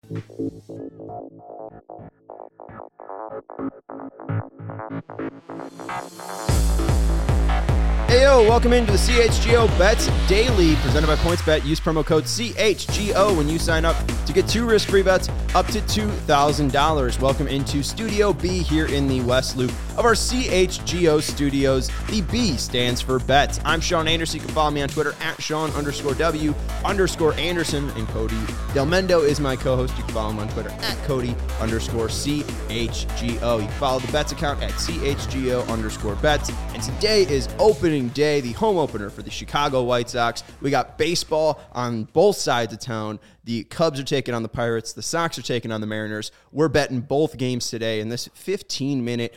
Hey, yo, welcome into the CHGO Bets Daily, presented by PointsBet. Use promo code CHGO when you sign up to get 2 risk-free bets up to $2,000. Welcome into Studio B here in the West Loop of our CHGO studios. The B stands for bets. I'm Sean Anderson. You can follow me on Twitter at Sean_W_Anderson. And Cody Del Mendo is my co-host. You can follow him on Twitter at Cody_CHGO. You can follow the bets account at CHGO_bets. And today is opening day, the home opener for the Chicago White Sox. We got baseball on both sides of town. The Cubs are taking on the Pirates. The Sox are taking on the Mariners. We're betting both games today in this 15-minute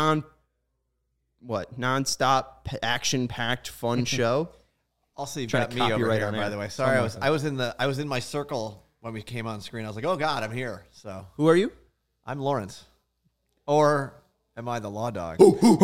nonstop action-packed fun show. Also, you've got me over here, by the way. Sorry, I was in my circle when we came on screen. I was like, oh God, I'm here. So who are you? I'm Lawrence. Or am I the law dog?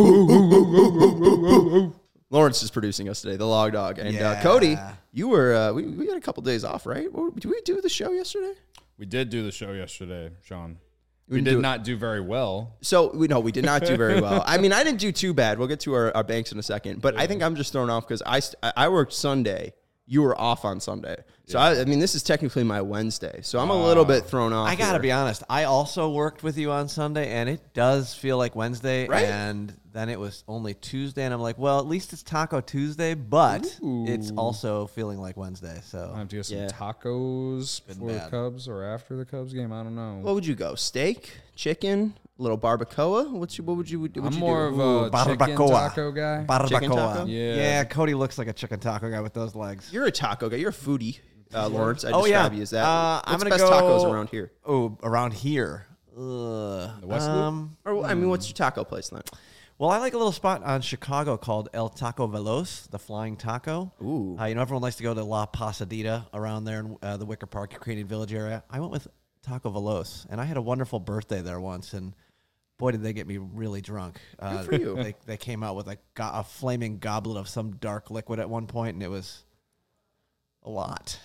Lawrence is producing us today, the log dog. And Cody, you were, we had a couple days off, right? Did we do the show yesterday? We did do the show yesterday, Sean. We did not do very well. So, we did not do very well. I mean, I didn't do too bad. We'll get to our banks in a second. But I think I'm just thrown off because I worked Sunday. You were off on Sunday. So, I mean, this is technically my Wednesday. So, I'm a little bit thrown off. I got to be honest. I also worked with you on Sunday, and it does feel like Wednesday. Right? And then it was only Tuesday, and I'm like, well, at least it's Taco Tuesday, but it's also feeling like Wednesday. So I have to get some tacos before the Cubs or after the Cubs game. I don't know. What would you go? Steak? Chicken? A little barbacoa? What would you do? I'm more of a chicken taco guy. Chicken taco? Yeah, Cody looks like a chicken taco guy with those legs. You're a taco guy. You're a foodie, Lawrence. I describe you as that. I'm What's gonna best go tacos around here? Oh, around here. The West Loop? Or, I mean, what's your taco place then? Well, I like a little spot on Chicago called El Taco Veloz, the Flying Taco. Ooh. Everyone likes to go to La Pasadita around there in the Wicker Park, Ukrainian Village area. I went with Taco Veloz, and I had a wonderful birthday there once, and boy, did they get me really drunk. Good for you. They came out with a flaming goblet of some dark liquid at one point, and it was a lot.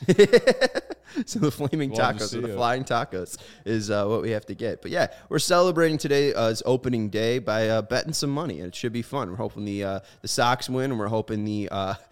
So the flaming tacos or the flying tacos is what we have to get. But yeah, we're celebrating today as opening day by betting some money, and it should be fun. We're hoping the Sox win, and we're hoping the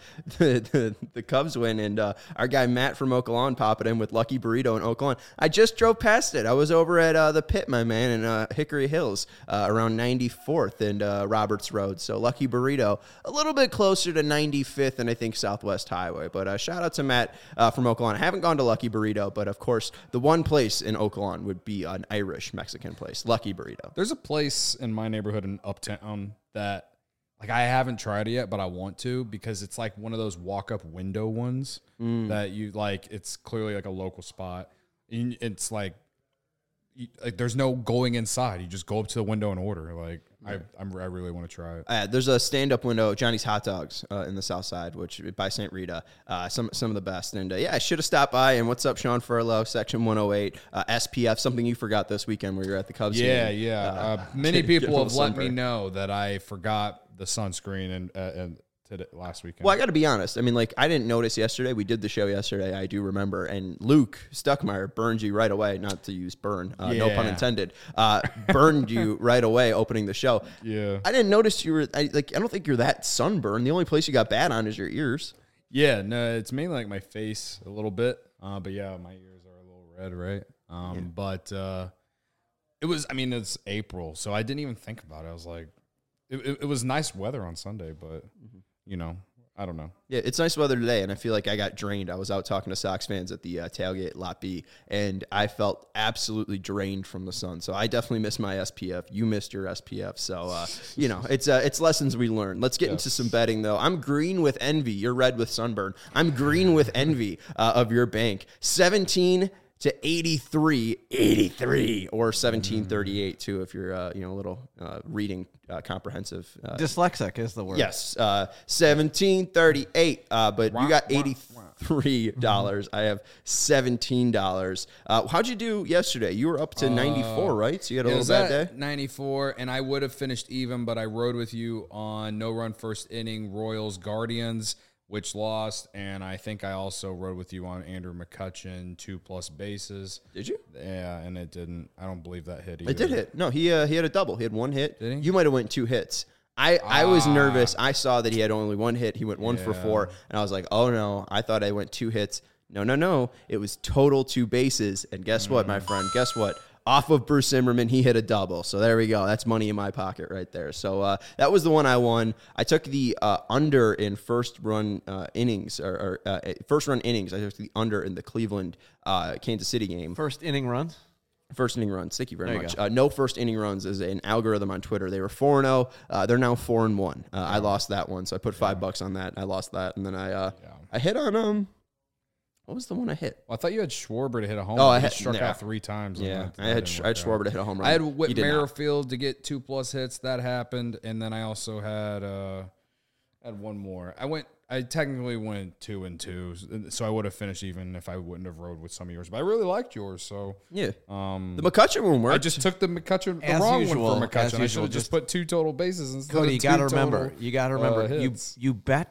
Cubs win. And our guy Matt from Oak Lawn popping in with Lucky Burrito in Oak Lawn. I just drove past it. I was over at the Pit, my man, in Hickory Hills around 94th and Roberts Road. So Lucky Burrito, a little bit closer to 95th and I think Southwest Highway. But shout out to Matt from Oak Lawn. I haven't gone to Lucky Burrito, but of course, the one place in Oak Lawn would be an Irish Mexican place, Lucky Burrito. There's a place in my neighborhood in Uptown that, like, I haven't tried it yet, but I want to because it's like one of those walk-up window ones that you like. It's clearly like a local spot. It's like there's no going inside. You just go up to the window and order. Like, I really want to try it. There's a stand-up window, Johnny's Hot Dogs in the South Side, which by St. Rita, some of the best. And I should have stopped by. And what's up, Sean Furlow, Section 108, SPF, something you forgot this weekend where you're at the Cubs game. Yeah. Many people have let me know that I forgot the sunscreen and last weekend. Well, I got to be honest. I mean, like, I didn't notice yesterday. We did the show yesterday. I do remember. And Luke Stuckmeyer burned you right away. Not to use burn. No pun intended. Burned you right away opening the show. Yeah. I didn't notice you were, I don't think you're that sunburned. The only place you got bad on is your ears. Yeah. No, it's mainly like my face a little bit. But yeah, my ears are a little red, right? But it's April. So I didn't even think about it. I was like, it was nice weather on Sunday, but I don't know. Yeah, it's nice weather today, and I feel like I got drained. I was out talking to Sox fans at the tailgate Lot B, and I felt absolutely drained from the sun. So I definitely missed my SPF. You missed your SPF. So, it's lessons we learn. Let's get into some betting, though. I'm green with envy. You're red with sunburn. I'm green with envy of your bank. 17 to 83, or 1738 too, if you're a little reading comprehensive. Dyslexic is the word. Yes, 1738. But you got $83. I have $17. How'd you do yesterday? You were up to 94, right? So you had a little bad day. 94, and I would have finished even, but I rode with you on no run first inning Royals Guardians. which lost, and I think I also rode with you on Andrew McCutcheon 2+ bases. Did you? Yeah, and it didn't. I don't believe that hit either. It did hit. No, he had a double. He had one hit. Did he? You might have went 2 hits. I was nervous. I saw that he had only 1 hit. He went 1 for 4, and I was like, oh no, I thought I went 2 hits. No. It was total 2 bases. And guess what, my friend? Guess what? Off of Bruce Zimmerman, he hit a double. So there we go. That's money in my pocket right there. So that was the one I won. I took the under in first run innings. I took the under in the Cleveland Kansas City game. First inning runs? First inning runs. Thank you very much. No first inning runs is an algorithm on Twitter. They were 4-0. They're now 4-1. I lost that one, so I put $5 on that. I lost that, and then I hit on what was the one I hit? Well, I thought you had Schwarber to hit a home run. I had struck out 3 times. Yeah, I had Schwarber to hit a home run. I had Whit Merrifield to get 2+ hits. That happened, and then I also had one more. I technically went 2-2, so I would have finished even if I wouldn't have rode with some of yours. But I really liked yours, so yeah. The McCutcheon one worked. I just took the wrong one for McCutcheon. I should have just put 2 total bases instead. Cody, of you got to remember. You bet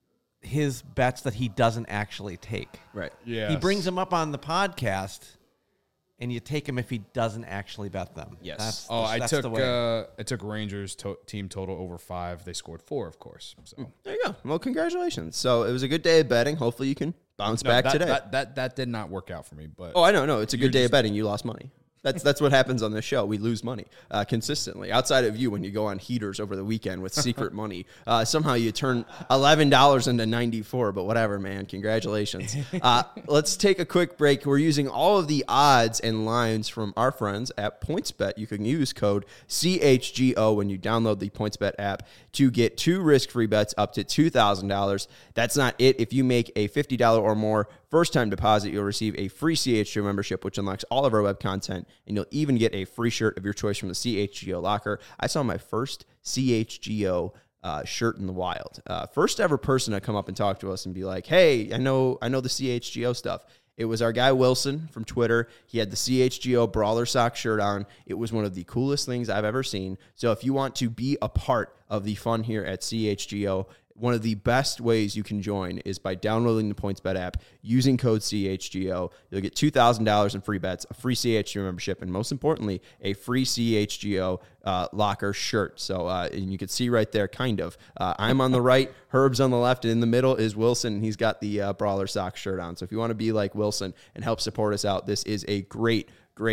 his bets that he doesn't actually take. Right. Yeah. He brings them up on the podcast, and you take him if he doesn't actually bet them. Yes. I took Rangers team total over 5. They scored 4, of course. So there you go. Well, congratulations. So it was a good day of betting. Hopefully you can bounce back today. That did not work out for me. But I know. No, it's a good day of betting. You lost money. That's what happens on this show. We lose money consistently. Outside of you, when you go on heaters over the weekend with secret money, somehow you turn $11 into 94. But whatever, man. Congratulations. Let's take a quick break. We're using all of the odds and lines from our friends at PointsBet. You can use code CHGO when you download the PointsBet app to get 2 risk-free bets up to $2,000. That's not it. If you make a $50 or more first-time deposit, you'll receive a free CHGO membership, which unlocks all of our web content, and you'll even get a free shirt of your choice from the CHGO locker. I saw my first CHGO shirt in the wild. First ever person to come up and talk to us and be like, hey, I know the CHGO stuff. It was our guy Wilson from Twitter. He had the CHGO Brawler Sock shirt on. It was one of the coolest things I've ever seen. So if you want to be a part of the fun here at CHGO, one of the best ways you can join is by downloading the PointsBet app, using code CHGO. You'll get $2,000 in free bets, a free CHGO membership, and most importantly, a free CHGO locker shirt. So and you can see right there, kind of. I'm on the right, Herb's on the left, and in the middle is Wilson, and he's got the Brawler Sock shirt on. So if you want to be like Wilson and help support us out, this is a great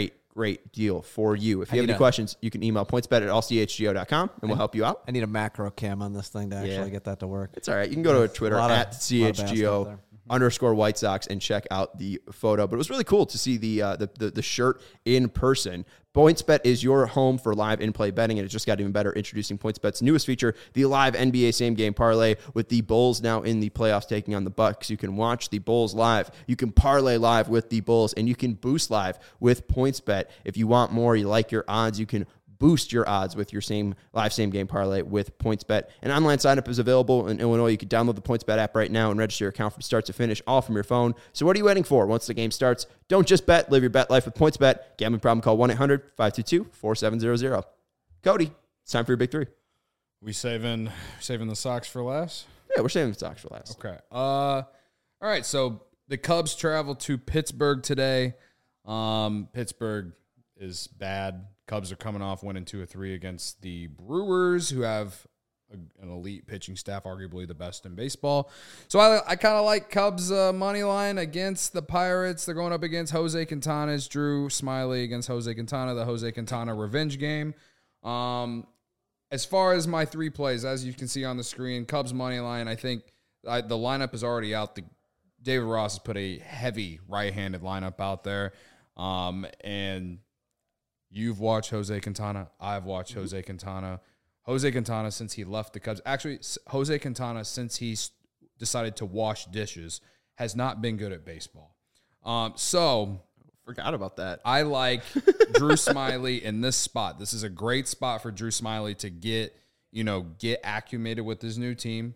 deal for you. If you have any questions, you can email pointsbet@allchgo.com and we'll help you out. I need a macro cam on this thing to actually get that to work. It's all right. You can go to Twitter at CHGO _White Sox and check out the photo. But it was really cool to see the shirt in person. PointsBet is your home for live in-play betting, and it just got even better. Introducing PointsBet's newest feature, the live NBA same-game parlay, with the Bulls now in the playoffs taking on the Bucks. You can watch the Bulls live. You can parlay live with the Bulls, and you can boost live with PointsBet. If you want more, you like your odds, you can boost your odds with your live same-game parlay with PointsBet. An online sign-up is available in Illinois. You can download the PointsBet app right now and register your account from start to finish, all from your phone. So what are you waiting for? Once the game starts, don't just bet. Live your bet life with PointsBet. Gambling problem, call 1-800-522-4700. Cody, it's time for your big 3. We saving the Sox for last? Yeah, we're saving the Sox for last. Okay. All right, so the Cubs travel to Pittsburgh today. Pittsburgh is bad. Cubs are coming off winning 2 of 3 against the Brewers, who have an elite pitching staff, arguably the best in baseball. So I kind of like Cubs money line against the Pirates. They're going up against Jose Quintana's Drew Smiley against Jose Quintana, the Jose Quintana revenge game. As far as my 3 plays, as you can see on the screen, Cubs money line, I think the lineup is already out. David Ross has put a heavy right-handed lineup out there, and you've watched Jose Quintana. I've watched Jose Quintana. Jose Quintana, since he left the Cubs. Actually, Jose Quintana, since he's decided to wash dishes, has not been good at baseball. Forgot about that. I like Drew Smiley in this spot. This is a great spot for Drew Smiley to get acclimated with his new team.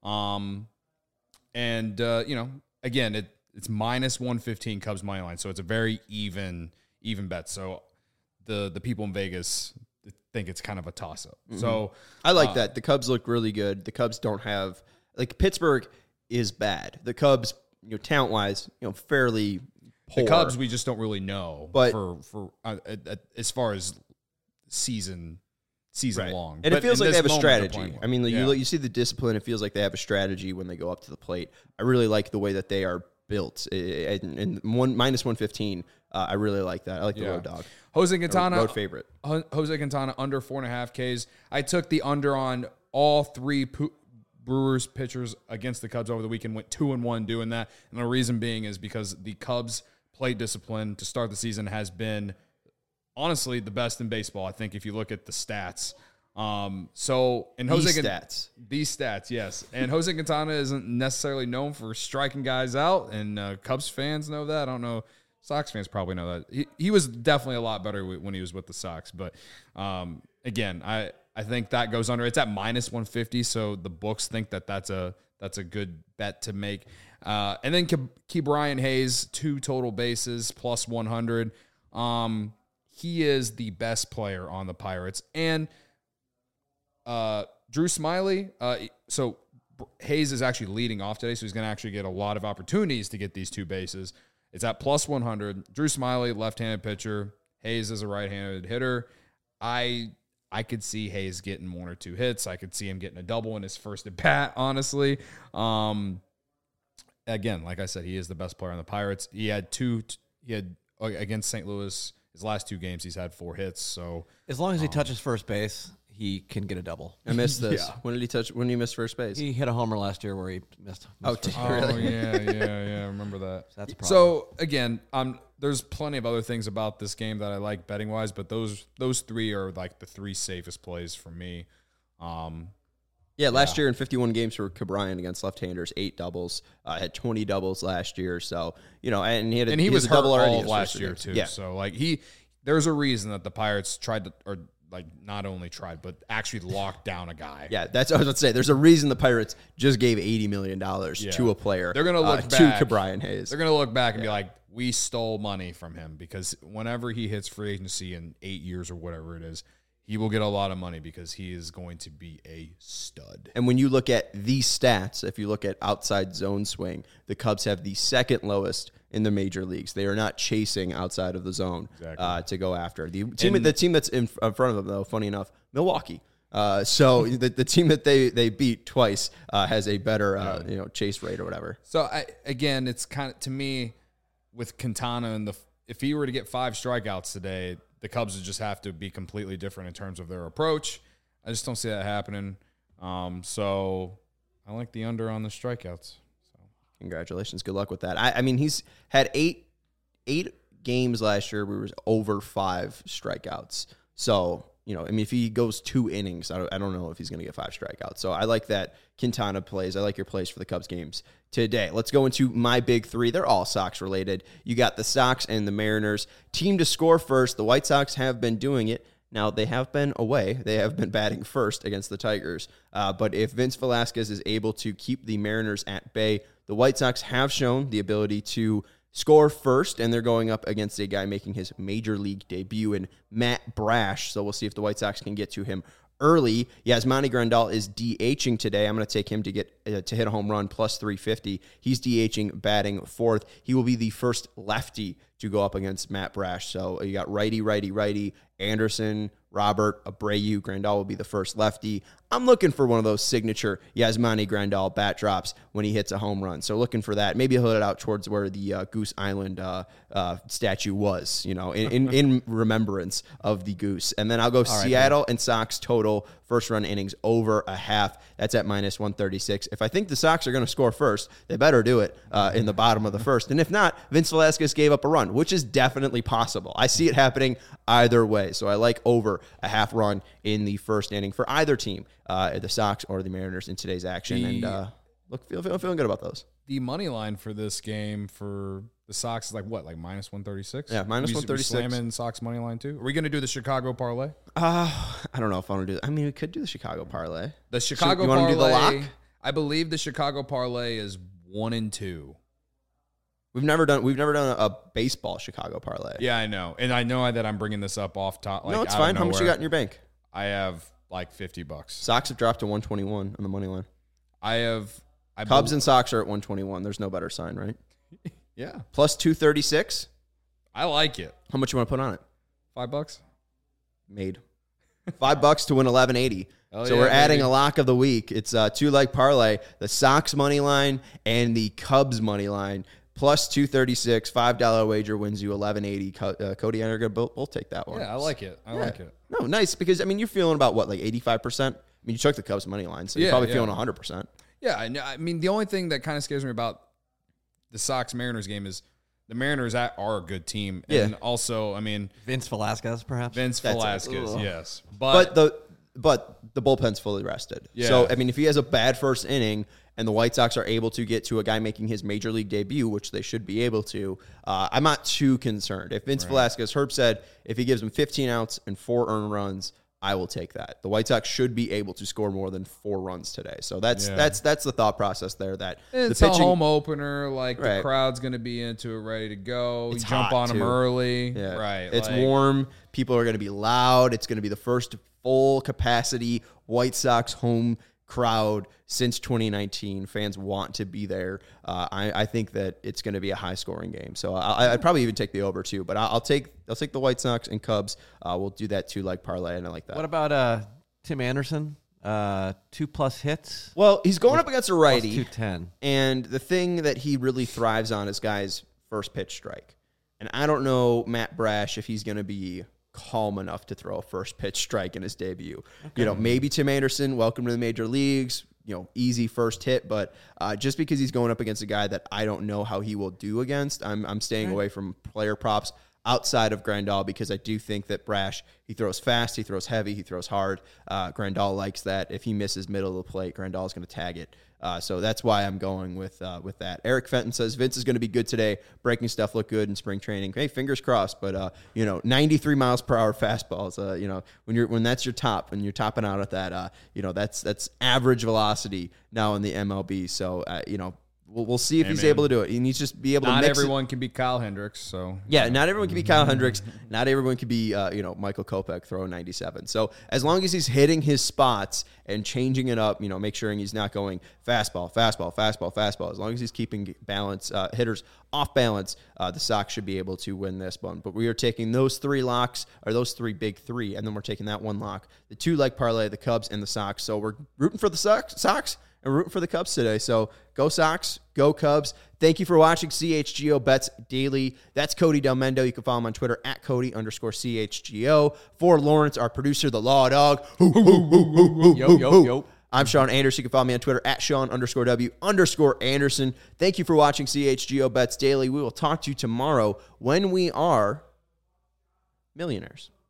Again, it's minus 115 Cubs money line, so it's a very even bet. So the people in Vegas think it's kind of a toss-up. Mm-hmm. So I like that. The Cubs look really good. The Cubs don't have – like Pittsburgh is bad. The Cubs, talent-wise, fairly poor. The Cubs, we just don't really know, but for as far as season right. long. And but it feels like they have a strategy. I mean, yeah. you see the discipline. It feels like they have a strategy when they go up to the plate. I really like the way that they are built. And minus 115, I really like that. I like the road dog. Jose Quintana, road favorite. Jose Quintana under 4.5 Ks. I took the under on all three Brewers pitchers against the Cubs over the weekend. Went 2-1 doing that, and the reason being is because the Cubs' plate discipline to start the season has been honestly the best in baseball. I think if you look at the stats. These stats, yes. And Jose Quintana isn't necessarily known for striking guys out, and Cubs fans know that. I don't know. Sox fans probably know that. He was definitely a lot better when he was with the Sox. But again, I think that goes under. It's at minus 150, so the books think that's a good bet to make. And then Ke'Bryan Hayes, 2 total bases, plus 100. He is the best player on the Pirates. And Drew Smyly, so Hayes is actually leading off today, so he's going to actually get a lot of opportunities to get these 2 bases. It's at plus 100. Drew Smyly, left-handed pitcher. Hayes is a right-handed hitter. I could see Hayes getting 1 or 2 hits. I could see him getting a double in his first at bat, honestly. Again, like I said, he is the best player on the Pirates. He had against St. Louis, his last 2 games, he's had 4 hits. So as long as he touches first base, he can get a double. I missed this. Yeah. When did he miss first base? He hit a homer last year where he missed first base. Really? yeah. I remember that. So that's a problem. So again, there's plenty of other things about this game that I like betting wise, but those 3 are like the 3 safest plays for me. Last year in 51 games for Ke'Bryan against left-handers, 8 doubles. Had 20 doubles last year. So and he was hurt double already all of last year too. Yeah. So like there's a reason that the Pirates tried to, or like not only tried, but actually locked down a guy. Yeah, that's what I was going to say. There's a reason the Pirates just gave $80 million to a player. They're going to look back to Ke'Bryan Hayes. They're going to look back and be like, we stole money from him, because whenever he hits free agency in 8 years or whatever it is, he will get a lot of money because he is going to be a stud. And when you look at these stats, if you look at outside zone swing, the Cubs have the second lowest in the major leagues. They are not chasing outside of the zone to go after. The team that's in front of them, though, funny enough, Milwaukee. So the team that they beat twice has a better chase rate or whatever. So again, it's kind of, to me, with Quintana and if he were to get 5 strikeouts today, the Cubs would just have to be completely different in terms of their approach. I just don't see that happening. So I like the under on the strikeouts. So congratulations, good luck with that. I mean, he's had eight games last year where he was over 5 strikeouts. So if he goes 2 innings, I don't know if he's going to get 5 strikeouts. So I like that Quintana plays. I like your plays for the Cubs games today. Let's go into my big 3. They're all Sox related. You got the Sox and the Mariners. Team to score first. The White Sox have been doing it. Now, they have been away. They have been batting first against the Tigers. But if Vince Velasquez is able to keep the Mariners at bay, the White Sox have shown the ability to score first, and they're going up against a guy making his major league debut in Matt Brash. So we'll see if the White Sox can get to him early. Yasmani Grandal is DHing today. I'm going to take him to get to hit a home run, plus 350. He's DHing, batting 4th. He will be the first lefty to go up against Matt Brash. So you got righty, Anderson, Robert, Abreu. Grandal will be the first lefty. I'm looking for one of those signature Yasmani Grandal bat drops when he hits a home run. So looking for that. Maybe he'll hit it out towards where the Goose Island statue was, in remembrance of the Goose. And then I'll go Seattle and Sox total first run innings over a half. That's at minus 136. If I think the Sox are going to score first, they better do it in the bottom of the first. And if not, Vince Velasquez gave up a run, which is definitely possible. I see it happening either way. So I like over a half run in the first inning for either team, the Sox or the Mariners in today's action. Feeling good about those. The money line for this game for the Sox is like minus 136? Yeah, minus 136. Slamming Sox money line too? Are we going to do the Chicago parlay? I don't know if I want to do that. I mean, we could do the Chicago parlay. The Chicago parlay. You want to do the lock? I believe the Chicago parlay is 1-2. We've never done a baseball Chicago parlay. Yeah, I know. And I know that I'm bringing this up off top. No, it's fine. How much you got in your bank? I have like $50. Sox have dropped to 121 on the money line. I have Cubs and Sox are at 121. There's no better sign, right? Yeah. Plus 236. I like it. How much you want to put on it? $5. Made. $5 to win 1180. Oh, So yeah, we're adding baby. a lock of the week. It's a 2-leg parlay, the Sox money line and the Cubs money line. Plus 236, $5 wager wins you 1180. Cody and I are going to both take that one. Yeah, I like it. I like it. No, nice, because, I mean, you're feeling about, what, like 85%? I mean, you took the Cubs money line, so you're Yeah, probably yeah. feeling 100%. Yeah, I mean, the only thing that kind of scares me about the Sox-Mariners game is the Mariners are a good team. Yeah. And also, I mean, Vince Velasquez, perhaps. Vince That's it. Velasquez, Ugh. yes. But the bullpen's fully rested. Yeah. So, I mean, if he has a bad first inning and the White Sox are able to get to a guy making his major league debut, which they should be able to, I'm not too concerned. If Vince Velasquez, Herb said, if he gives him 15 outs and 4 earned runs, I will take that. The White Sox should be able to score more than 4 runs today. So that's the thought process there. That it's the pitching, a home opener. Like, Right. the crowd's going to be into it, ready to go. It's You jump hot, on them too. early. Yeah. Right. It's like, warm. People are going to be loud. It's going to be the first full capacity White Sox home crowd since 2019. Fans want to be there. I think that it's going to be a high scoring game. So I'd probably even take the over too. But I'll take the White Sox and Cubs. We'll do that 2-leg parlay, and I like that. What about Tim Anderson? 2+ hits. Well, he's going up against a Plus righty. 210. And the thing that he really thrives on is guys' first pitch strike. And I don't know Matt Brash if he's going to be calm enough to throw a first pitch strike in his debut. You know, maybe Tim Anderson, welcome to the major leagues, you know, easy first hit, but just because he's going up against a guy that I don't know how he will do against, I'm staying away from player props outside of Grandal, because I do think that Brash, he throws fast, he throws heavy, he throws hard. Grandal likes that. If he misses middle of the plate, Grandal is going to tag it. So that's why I'm going with that. Eric Fenton says Vince is going to be good today. Breaking stuff looked good in spring training. Hey, fingers crossed. But 93 miles per hour fastballs. When that's your top, and you're topping out at that, that's average velocity now in the MLB. So we'll see if he's able to do it. He needs to just be able to. Not mix everyone can be Kyle Hendricks. So Yeah, not everyone can be Kyle Hendricks. Not everyone can be, Michael Kopech throwing 97. So as long as he's hitting his spots and changing it up, make sure he's not going fastball. As long as he's keeping balance, hitters off balance, the Sox should be able to win this one. But we are taking those 3 locks, or those 3 big 3, and then we're taking that 1 lock, the 2-leg parlay, the Cubs and the Sox. So we're rooting for the Sox and rooting for the Cubs today. So go Sox, go Cubs. Thank you for watching CHGO Bets Daily. That's Cody Del Mendo. You can follow him on Twitter at Cody_CHGO. For Lawrence, our producer, the Law Dog. Yo. I'm Sean Anderson. You can follow me on Twitter at Sean_W_Anderson. Thank you for watching CHGO Bets Daily. We will talk to you tomorrow when we are millionaires.